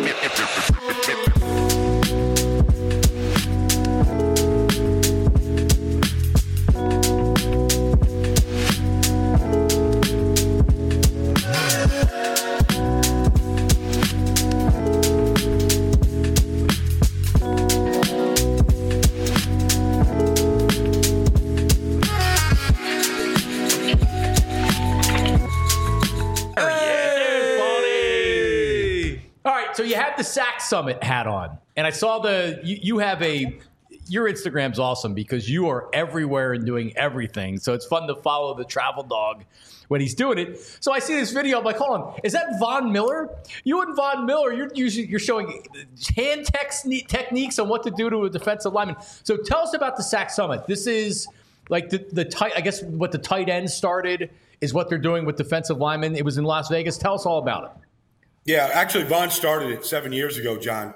So you have the Sack Summit hat on, and I saw you have your Instagram's awesome because you are everywhere and doing everything. So it's fun to follow the travel dog when he's doing it. So I see this video. I'm like, hold on, is that Von Miller? You and Von Miller, you're showing hand techniques on what to do to a defensive lineman. So tell us about the Sack Summit. This is like the tight. I guess what the tight end started is what they're doing with defensive linemen. It was in Las Vegas. Tell us all about it. Yeah, actually, Vaughn started it 7 years ago, John.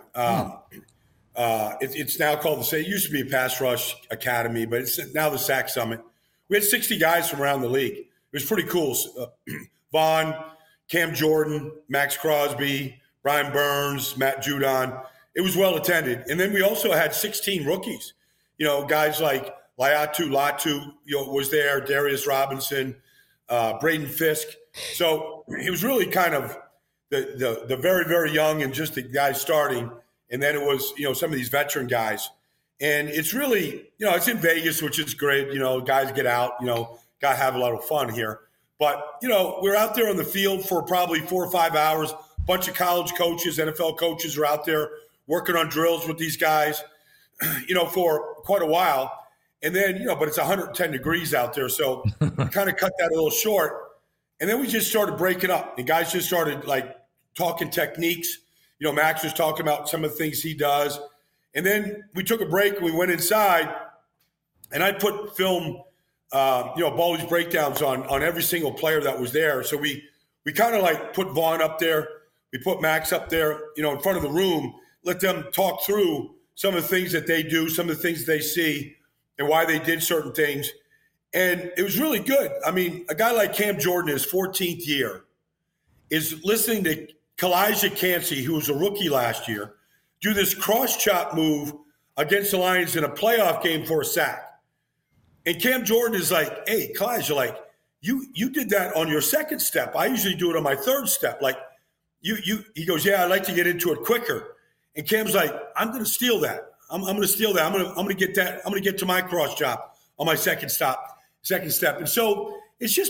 It's now called it used to be a pass rush academy, but it's now the Sack Summit. We had 60 guys from around the league. It was pretty cool. Vaughn, Cam Jordan, Max Crosby, Brian Burns, Matt Judon. It was well attended. And then we also had 16 rookies. Guys like Latu Latu, was there, Darius Robinson, Braden Fisk. So it was really kind of the very, very young and just the guys starting. And then it was, some of these veteran guys. And it's really, it's in Vegas, which is great. Guys get out, got to have a lot of fun here. But, we're out there on the field for probably 4 or 5 hours. A bunch of college coaches, NFL coaches are out there working on drills with these guys, for quite a while. And then, but it's 110 degrees out there. So we kind of cut that a little short. And then we just started breaking up. And guys just started, talking techniques. Max was talking about some of the things he does. And then we took a break and we went inside. And I put film, Baldy's breakdowns on every single player that was there. So we kind of put Vaughn up there. We put Max up there, in front of the room, let them talk through some of the things that they do, some of the things they see, and why they did certain things. And it was really good. I mean, a guy like Cam Jordan, his 14th year, is listening to Kalijah Cansey, who was a rookie last year, do this cross-chop move against the Lions in a playoff game for a sack. And Cam Jordan is like, hey, Kalijah, you did that on your second step. I usually do it on my third step. He goes, yeah, I like to get into it quicker. And Cam's like, I'm going to steal that. I'm going to steal that. I'm going to get that. I'm going to get to my cross-chop on my second step. And so it's just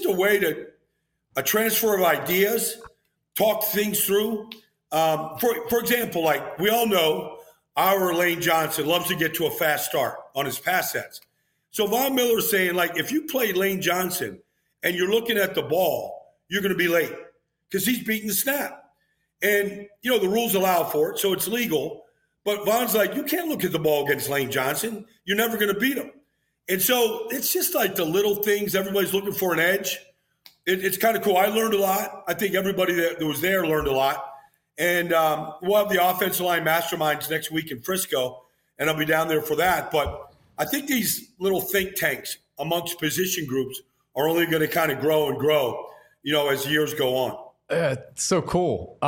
a transfer of ideas, talk things through. For example, we all know our Lane Johnson loves to get to a fast start on his pass sets. So Von Miller is saying, if you play Lane Johnson and you're looking at the ball, you're going to be late because he's beating the snap. And, the rules allow for it, so it's legal. But Von's like, you can't look at the ball against Lane Johnson. You're never going to beat him. And so it's just the little things. Everybody's looking for an edge. It's kind of cool. I learned a lot. I think everybody that was there learned a lot. And we'll have the offensive line masterminds next week in Frisco, and I'll be down there for that. But I think these little think tanks amongst position groups are only going to kind of grow and grow, as years go on. It's so cool.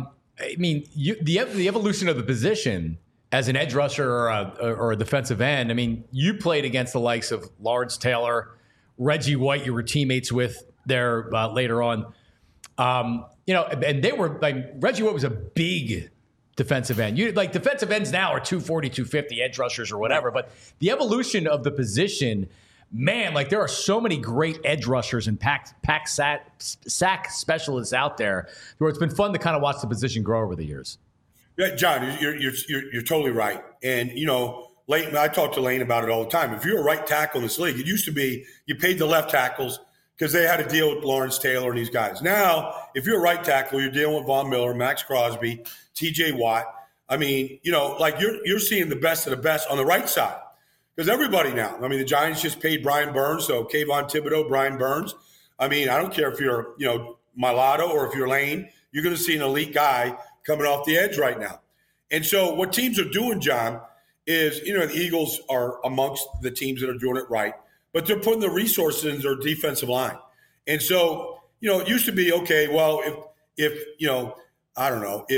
The evolution of the position as an edge rusher or a defensive end. You played against the likes of Lawrence Taylor, Reggie White. You were teammates with there later on. And they were Reggie White was a big defensive end. Defensive ends now are 240, 250 edge rushers or whatever. But the evolution of the position, man, there are so many great edge rushers and sack specialists out there where it's been fun to kind of watch the position grow over the years. Yeah, John, you're totally right. And, Lane, I talk to Lane about it all the time. If you're a right tackle in this league, it used to be you paid the left tackles because they had to deal with Lawrence Taylor and these guys. Now, if you're a right tackle, you're dealing with Von Miller, Max Crosby, TJ Watt. You're seeing the best of the best on the right side. Because everybody now, the Giants just paid Brian Burns, so Kayvon Thibodeau, Brian Burns. I don't care if you're, Mulatto or if you're Lane, you're going to see an elite guy coming off the edge right now. And so what teams are doing, John, is, the Eagles are amongst the teams that are doing it right, but they're putting the resources in their defensive line. And so, it used to be, okay, well, if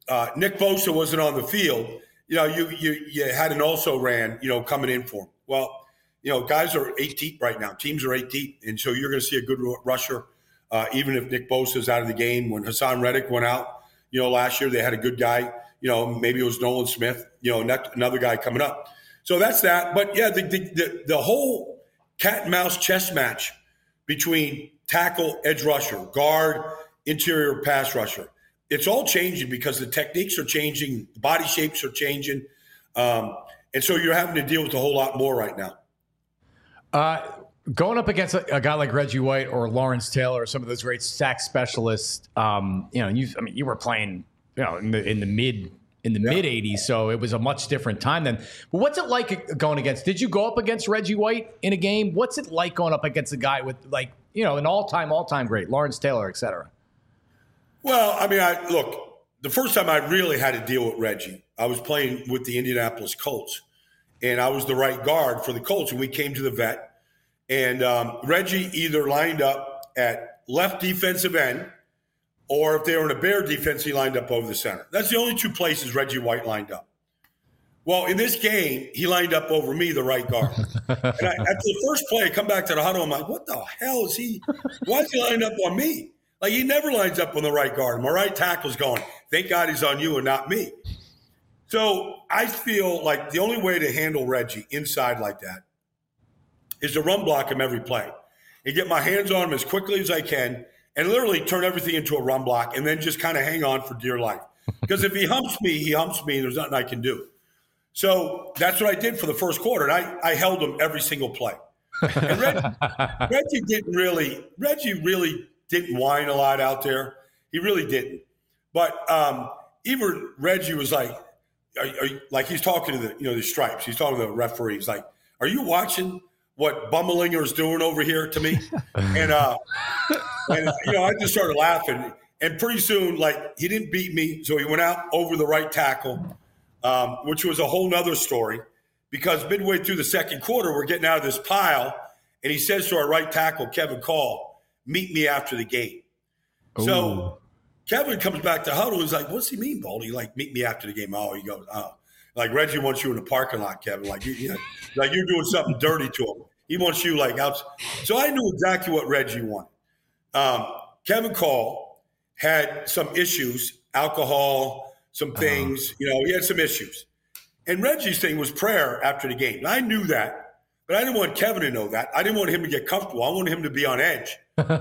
Nick Bosa wasn't on the field, you had an also-ran, coming in for him. Well, guys are 8 deep right now. Teams are 8 deep, and so you're going to see a good rusher, even if Nick Bosa is out of the game. When Hassan Reddick went out, last year they had a good guy. Maybe it was Nolan Smith. Another guy coming up. So that's that. But yeah, the whole cat and mouse chess match between tackle, edge rusher, guard, interior pass rusher. It's all changing because the techniques are changing, the body shapes are changing. And so you're having to deal with a whole lot more right now. Going up against a guy like Reggie White or Lawrence Taylor or some of those great sack specialists, you were playing, in the mid 80s, so it was a much different time then. But what's it like going against? Did you go up against Reggie White in a game? What's it like going up against a guy with an all-time great, Lawrence Taylor, et cetera? Well, look, the first time I really had to deal with Reggie, I was playing with the Indianapolis Colts, and I was the right guard for the Colts, and we came to the vet, and Reggie either lined up at left defensive end, or if they were in a Bear defense, he lined up over the center. That's the only two places Reggie White lined up. Well, in this game, he lined up over me, the right guard. And after the first play, I come back to the huddle, I'm like, what the hell is he? Why is he lined up on me? Like, he never lines up on the right guard. My right tackle's going, thank God he's on you and not me. So I feel like the only way to handle Reggie inside like that is to run block him every play and get my hands on him as quickly as I can and literally turn everything into a run block and then just kind of hang on for dear life. Because if he humps me, and there's nothing I can do. So that's what I did for the first quarter, and I held him every single play. And Reggie really didn't whine a lot out there. He really didn't. But even Reggie was like, like he's talking to the stripes. He's talking to the referee. He's like, are you watching what Bummelinger is doing over here to me? And I just started laughing. And pretty soon, he didn't beat me. So he went out over the right tackle, which was a whole nother story, because midway through the second quarter, we're getting out of this pile. And he says to our right tackle, Kevin Call, meet me after the game. Ooh. So Kevin comes back to huddle. He's like, what's he mean, Baldy? Meet me after the game. Oh, he goes, oh. Reggie wants you in the parking lot, Kevin. You're doing something dirty to him. He wants you out. So I knew exactly what Reggie wanted. Kevin Call had some issues, alcohol, some things. He had some issues. And Reggie's thing was prayer after the game. And I knew that. But I didn't want Kevin to know that. I didn't want him to get comfortable. I wanted him to be on edge.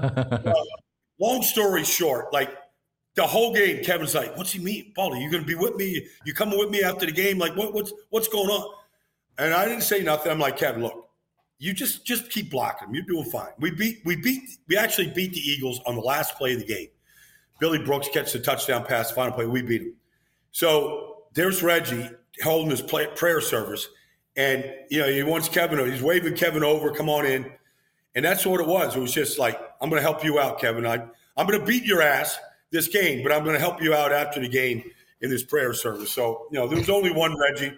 Long story short, the whole game, Kevin's like, what's he mean? Baldy, you going to be with me? You coming with me after the game? What's going on? And I didn't say nothing. I'm like, Kevin, look, you just keep blocking him. You're doing fine. We actually beat the Eagles on the last play of the game. Billy Brooks catches the touchdown pass, final play. We beat him. So there's Reggie holding his prayer service. And, he wants Kevin, he's waving Kevin over, come on in. And that's what it was. It was just I'm going to help you out, Kevin. I'm going to beat your ass this game, but I'm going to help you out after the game in this prayer service. So, there was only one Reggie.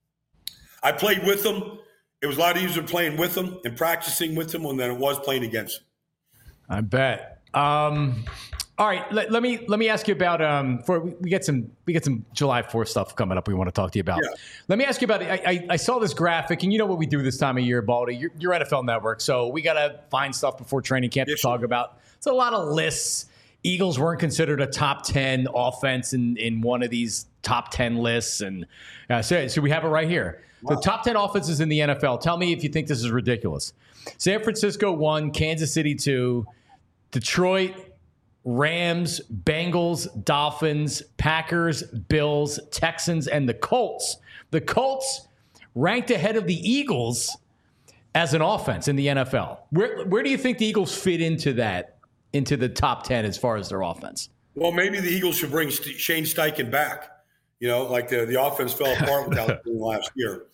I played with him. It was a lot easier playing with him and practicing with him than it was playing against him. I bet. All right, let me ask you about we get some July 4th stuff coming up we want to talk to you about. Yeah. Let me ask you about I saw this graphic, and you know what we do this time of year, Baldy. You're NFL Network, so we got to find stuff before training camp to talk about. It's a lot of lists. Eagles weren't considered a top 10 offense in one of these top 10 lists, and so we have it right here. Wow. The top 10 offenses in the NFL. Tell me if you think this is ridiculous. San Francisco 1, Kansas City 2, Detroit, Rams, Bengals, Dolphins, Packers, Bills, Texans, and the Colts. The Colts ranked ahead of the Eagles as an offense in the NFL. Where do you think the Eagles fit into the top 10 as far as their offense? Well, maybe the Eagles should bring Shane Steichen back. The offense fell apart without him last year.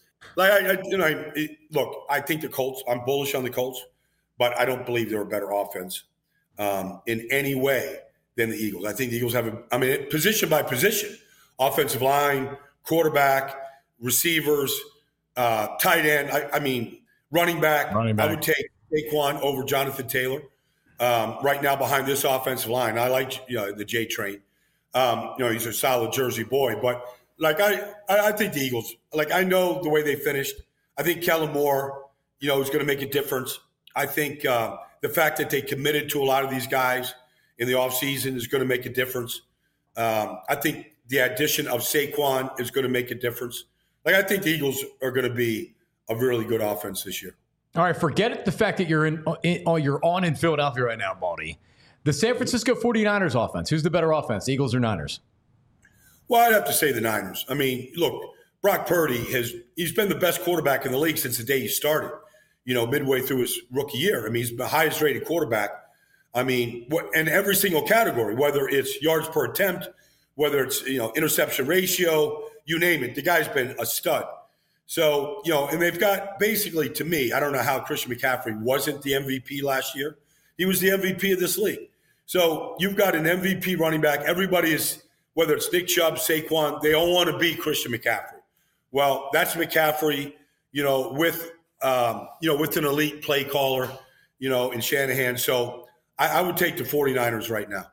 Look, I think the Colts, I'm bullish on the Colts, but I don't believe they're a better offense in any way than the Eagles. I think the Eagles have position by position, offensive line, quarterback, receivers, tight end. Running back. I would take Saquon over Jonathan Taylor right now behind this offensive line. I like the J train. He's a solid Jersey boy. But, like, I think the Eagles, like, I know the way they finished. I think Kellen Moore, is going to make a difference. I think the fact that they committed to a lot of these guys in the offseason is going to make a difference. I think the addition of Saquon is going to make a difference. Like, I think the Eagles are going to be a really good offense this year. All right, forget the fact that you're on in Philadelphia right now, Baldy. The San Francisco 49ers offense, who's the better offense, Eagles or Niners? Well, I'd have to say the Niners. I mean, look, Brock Purdy he's been the best quarterback in the league since the day he started, midway through his rookie year. I mean, he's the highest rated quarterback. I mean, in every single category, whether it's yards per attempt, whether it's, interception ratio, you name it, the guy's been a stud. So, and they've got basically, to me, I don't know how Christian McCaffrey wasn't the MVP last year. He was the MVP of this league. So you've got an MVP running back. Everybody is, whether it's Nick Chubb, Saquon, they all want to be Christian McCaffrey. Well, that's McCaffrey, with an elite play caller, in Shanahan. So I would take the 49ers right now.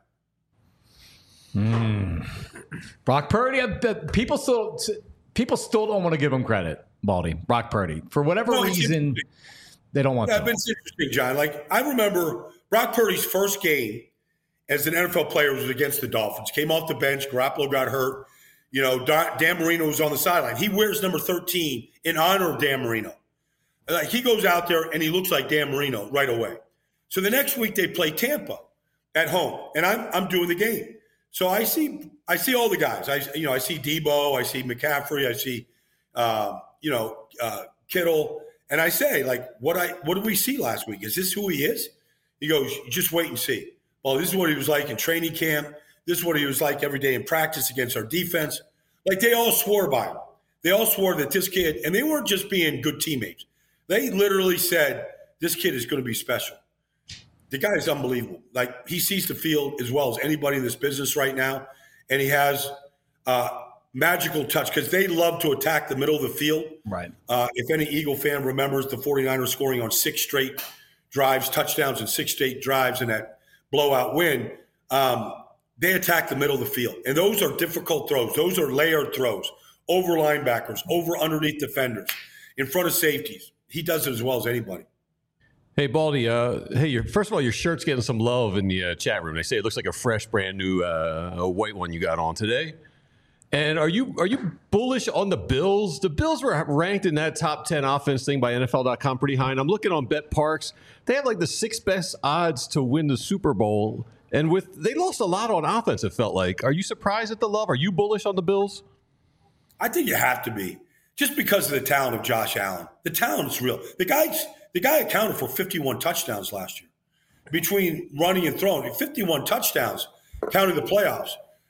Brock Purdy, people still don't want to give him credit, Baldy. Brock Purdy. For whatever reason, they don't want to. It's interesting, John. Like, I remember Brock Purdy's first game as an NFL player was against the Dolphins. Came off the bench. Garoppolo got hurt. Dan Marino was on the sideline. He wears number 13 in honor of Dan Marino. Like, he goes out there and he looks like Dan Marino right away. So the next week they play Tampa at home, and I'm doing the game. So I see all the guys. I see Debo, I see McCaffrey, I see Kittle, and I say, like, what did we see last week? Is this who he is? He goes, just wait and see. Well, this is what he was like in training camp. This is what he was like every day in practice against our defense. Like, they all swore by him. They all swore that this kid, and they weren't just being good teammates. They literally said, this kid is going to be special. The guy is unbelievable. Like, he sees the field as well as anybody in this business right now, and he has magical touch because they love to attack the middle of the field. Right. If any Eagle fan remembers the 49ers scoring on 6 straight drives, touchdowns in 6 straight drives in that blowout win, they attack the middle of the field. And those are difficult throws. Those are layered throws, over linebackers, over underneath defenders, in front of safeties. He does it as well as anybody. Hey, Baldy, first of all, your shirt's getting some love in the chat room. They say it looks like a fresh, brand new white one you got on today. And are you bullish on the Bills? The Bills were ranked in that top 10 offense thing by NFL.com pretty high. And I'm looking on BetParks. They have like the 6th best odds to win the Super Bowl. And they lost a lot on offense, it felt like. Are you surprised at the love? Are you bullish on the Bills? I think you have to be. Just because of the talent of Josh Allen. The talent is real. The guy accounted for 51 touchdowns last year. Between running and throwing, 51 touchdowns, counting the playoffs.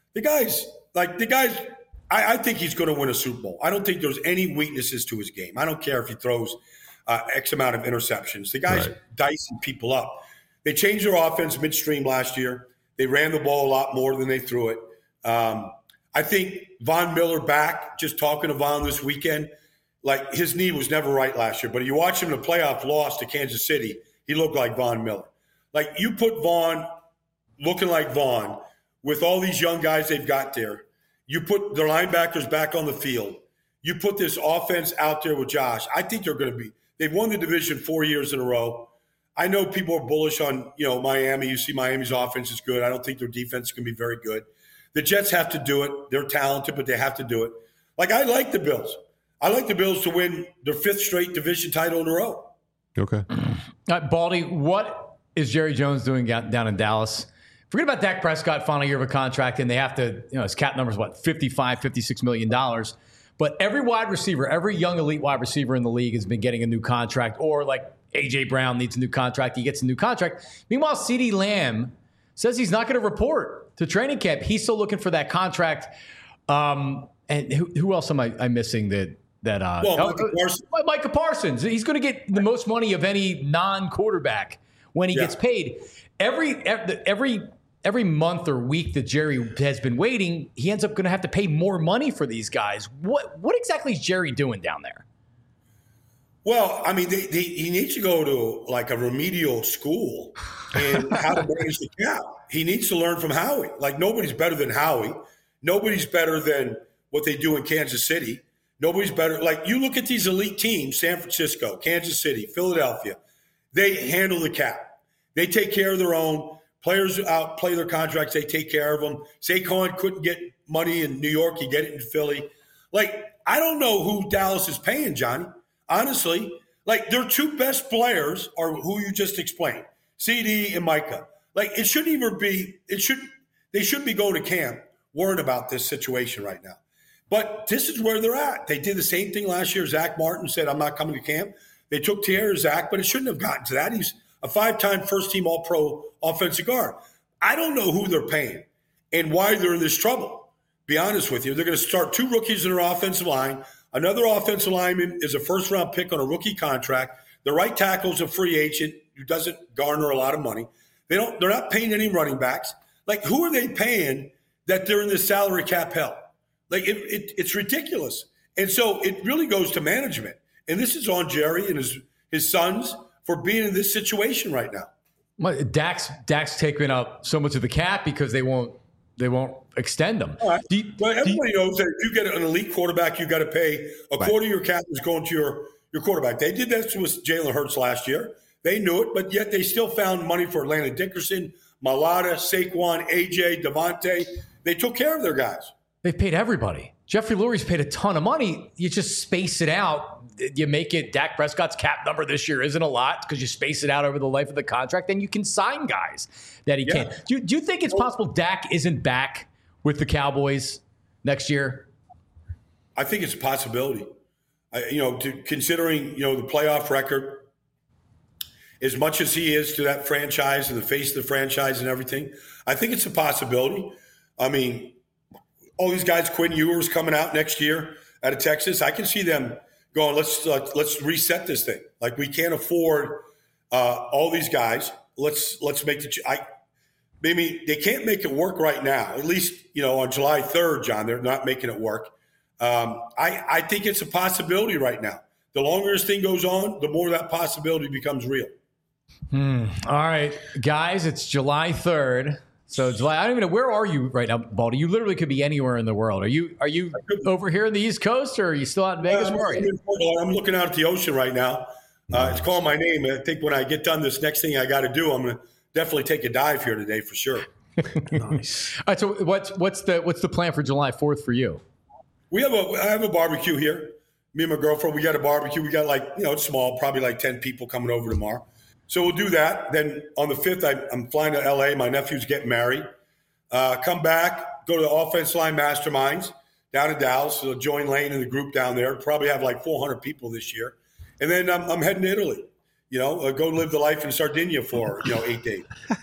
I think he's going to win a Super Bowl. I don't think there's any weaknesses to his game. I don't care if he throws X amount of interceptions. The guy's dicing people up. They changed their offense midstream last year. They ran the ball a lot more than they threw it. I think Von Miller back, just talking to Von this weekend, like, his knee was never right last year. But you watch him in the playoff loss to Kansas City, he looked like Von Miller. Like, you put Von looking like Von with all these young guys they've got there. You put their linebackers back on the field. You put this offense out there with Josh. I think they're going to be – they've won the division 4 years in a row. I know people are bullish on, Miami. You see Miami's offense is good. I don't think their defense is going to be very good. The Jets have to do it. They're talented, but they have to do it. Like, I like the Bills. I like the Bills to win their 5th straight division title in a row. Okay. Baldy, what is Jerry Jones doing down in Dallas? Forget about Dak Prescott, final year of a contract, and they have to, his cap number is $55, $56 million. But every wide receiver, every young elite wide receiver in the league has been getting a new contract, or like A.J. Brown needs a new contract. He gets a new contract. Meanwhile, CeeDee Lamb says he's not going to report to training camp. He's still looking for that contract. And who else am I missing Micah Parsons. He's going to get the most money of any non-quarterback when he gets paid. Every month or week that Jerry has been waiting, he ends up going to have to pay more money for these guys. What exactly is Jerry doing down there? Well, I mean, he needs to go to like a remedial school and how to manage the cap. He needs to learn from Howie. Like, nobody's better than Howie. Nobody's better than what they do in Kansas City. Nobody's better. Like, you look at these elite teams, San Francisco, Kansas City, Philadelphia, they handle the cap. They take care of their own. Players outplay their contracts. They take care of them. Saquon couldn't get money in New York. He get it in Philly. Like, I don't know who Dallas is paying, Johnny. Honestly, like, their two best players are who you just explained, CD and Micah. Like, it shouldn't even be – they shouldn't be going to camp worried about this situation right now. But this is where they're at. They did the same thing last year. Zach Martin said, I'm not coming to camp. They took care of Zach, but it shouldn't have gotten to that. He's a 5-time first-team All-Pro offensive guard. I don't know who they're paying and why they're in this trouble. Be honest with you. They're going to start 2 rookies in their offensive line. Another offensive lineman is a first-round pick on a rookie contract. The right tackle is a free agent who doesn't garner a lot of money. They're not paying any running backs. Like, who are they paying that they're in this salary cap hell? Like, it's ridiculous. And so it really goes to management. And this is on Jerry and his sons for being in this situation right now. Well, Dak's taking up so much of the cap because they won't extend them. All right. Everybody knows that if you get an elite quarterback, you got to pay a quarter of your cap is going to your quarterback. They did that with Jalen Hurts last year. They knew it, but yet they still found money for Landon Dickerson, Mailata, Saquon, AJ, Devontae. They took care of their guys. They've paid everybody. Jeffrey Lurie's paid a ton of money. You just space it out. You make it, Dak Prescott's cap number this year isn't a lot because you space it out over the life of the contract, and you can sign guys that he can't. Do you think it's possible Dak isn't back with the Cowboys next year? I think it's a possibility. Considering the playoff record, as much as he is to that franchise and the face of the franchise and everything, I think it's a possibility. I mean, all these guys, Quinn Ewers coming out next year out of Texas, I can see them going, let's reset this thing. Like, we can't afford all these guys. Let's make maybe they can't make it work right now. At least, on July 3rd, John, they're not making it work. I think it's a possibility right now. The longer this thing goes on, the more that possibility becomes real. All right, guys, it's July 3rd. So July, I don't even know, where are you right now, Baldy? You literally could be anywhere in the world. Are you over here in the East Coast, or are you still out in Vegas? Where are you? I'm looking out at the ocean right now. It's calling my name. I think when I get done, this next thing I got to do, I'm going to definitely take a dive here today for sure. Nice. All right. So what's the plan for July 4th for you? I have a barbecue here. Me and my girlfriend, we got a barbecue. We got it's small, probably like 10 people coming over tomorrow. So we'll do that. Then on the 5th, I'm flying to L.A. My nephew's getting married. Come back, go to the offense line masterminds down in Dallas. So join Lane and the group down there. Probably have like 400 people this year. And then I'm heading to Italy. Go live the life in Sardinia for 8 days.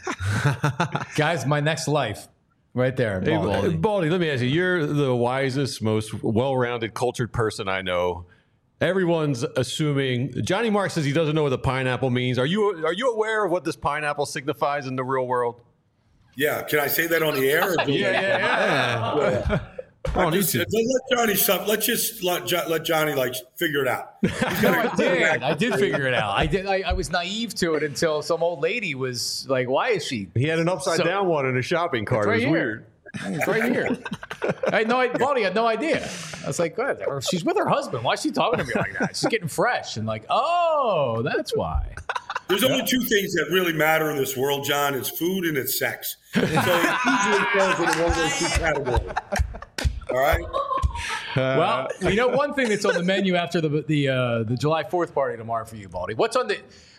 Guys, my next life. Right there, Baldy. Hey, Baldy, let me ask you. You're the wisest, most well-rounded, cultured person I know. Everyone's assuming Johnny Mark says he doesn't know what the pineapple means. Are you aware of what this pineapple signifies in the real world? Yeah. Can I say that on the air? Or Yeah. Let Johnny let Johnny figure it out. I did figure it out. I was naive to it until some old lady was like, "Why is she?" He had an upside down one in a shopping cart. Right, it was weird. It's right here. Baldy had no idea. I was like, "Good." Or she's with her husband. Why is she talking to me like that? She's getting fresh and oh, that's why. There's only 2 things that really matter in this world, John. It's food and it's sex. So it usually falls into one of those 2 categories. All right. Well, one thing that's on the menu after the July 4th party tomorrow for you, Baldy. What's on the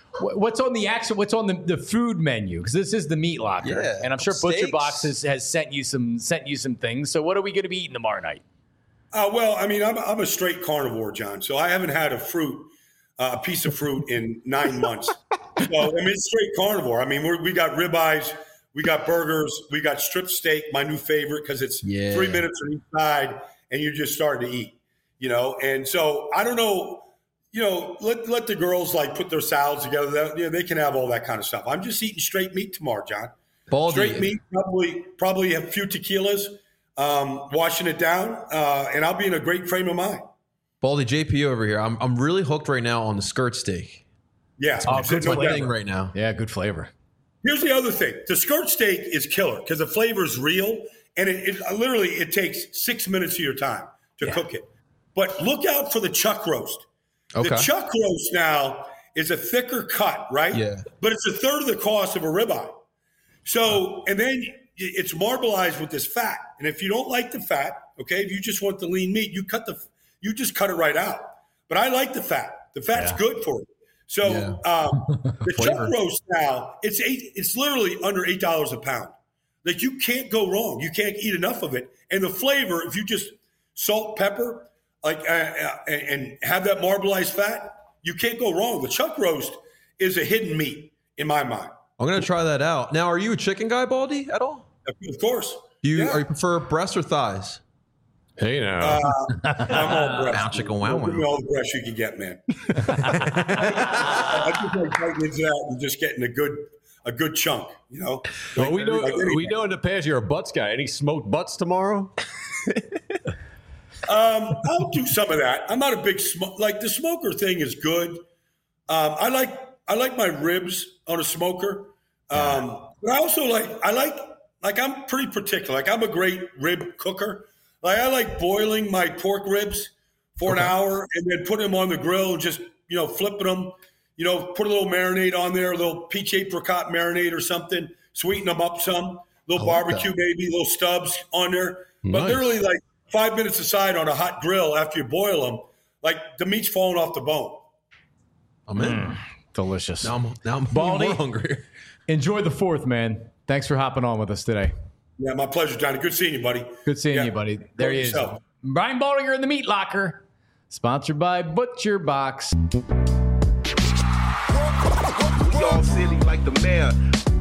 food menu? Because this is the meat locker, and I'm sure steaks. Butcher Box has sent you some things. So what are we going to be eating tomorrow night? Well, I mean, I'm a straight carnivore, John. So I haven't had a piece of fruit in 9 months. So I mean, it's straight carnivore. I mean, we got ribeyes. We got burgers. We got strip steak, my new favorite, because it's 3 minutes on each side, and you're just starting to eat, And so I don't know, let the girls put their salads together. They can have all that kind of stuff. I'm just eating straight meat tomorrow, John. Baldy. Straight meat, probably a few tequilas, washing it down, and I'll be in a great frame of mind. Baldy, JP over here. I'm really hooked right now on the skirt steak. Yeah. It's my thing right now. Yeah, good flavor. Here's the other thing. The skirt steak is killer because the flavor is real, and it takes 6 minutes of your time to cook it. But look out for the chuck roast. Okay. The chuck roast now is a thicker cut, right? Yeah. But it's a third of the cost of a ribeye. So, and then it's marbleized with this fat. And if you don't like the fat, okay, if you just want the lean meat, you just cut it right out. But I like the fat. The fat's good for it. So the chuck roast now, it's literally under $8 a pound. Like you can't go wrong. You can't eat enough of it. And the flavor, if you just salt, pepper, and have that marbleized fat, you can't go wrong. The chuck roast is a hidden meat in my mind. I'm going to try that out. Now, are you a chicken guy, Baldy, at all? Of course. Are you prefer breast or thighs? Hey now. I'm all breast. Wow, chicken, wow, Give me wow. all the breast you can get, man. I just like tightening it out and just getting a good chunk, you know? Well, we know in the past you're a butts guy. Any smoked butts tomorrow? I'll do some of that. I'm not a big the smoker thing is good. I like my ribs on a smoker. But I also like I'm pretty particular. Like I'm a great rib cooker. Like I like boiling my pork ribs for an hour and then putting them on the grill and just, flipping them, put a little marinade on there, a little peach apricot marinade or something, sweeten them up some, little barbecue maybe, little stubs on there. But literally like 5 minutes aside on a hot grill after you boil them, like the meat's falling off the bone. I'm in. Delicious. Now I'm Baldy, more hungry. Enjoy the 4th, man. Thanks for hopping on with us today. Yeah, my pleasure, Johnny. Good seeing you, buddy. Good seeing you, buddy. There he is. Brian Baldinger in the Meat Locker, sponsored by Butcher Box. We all silly like the mayor.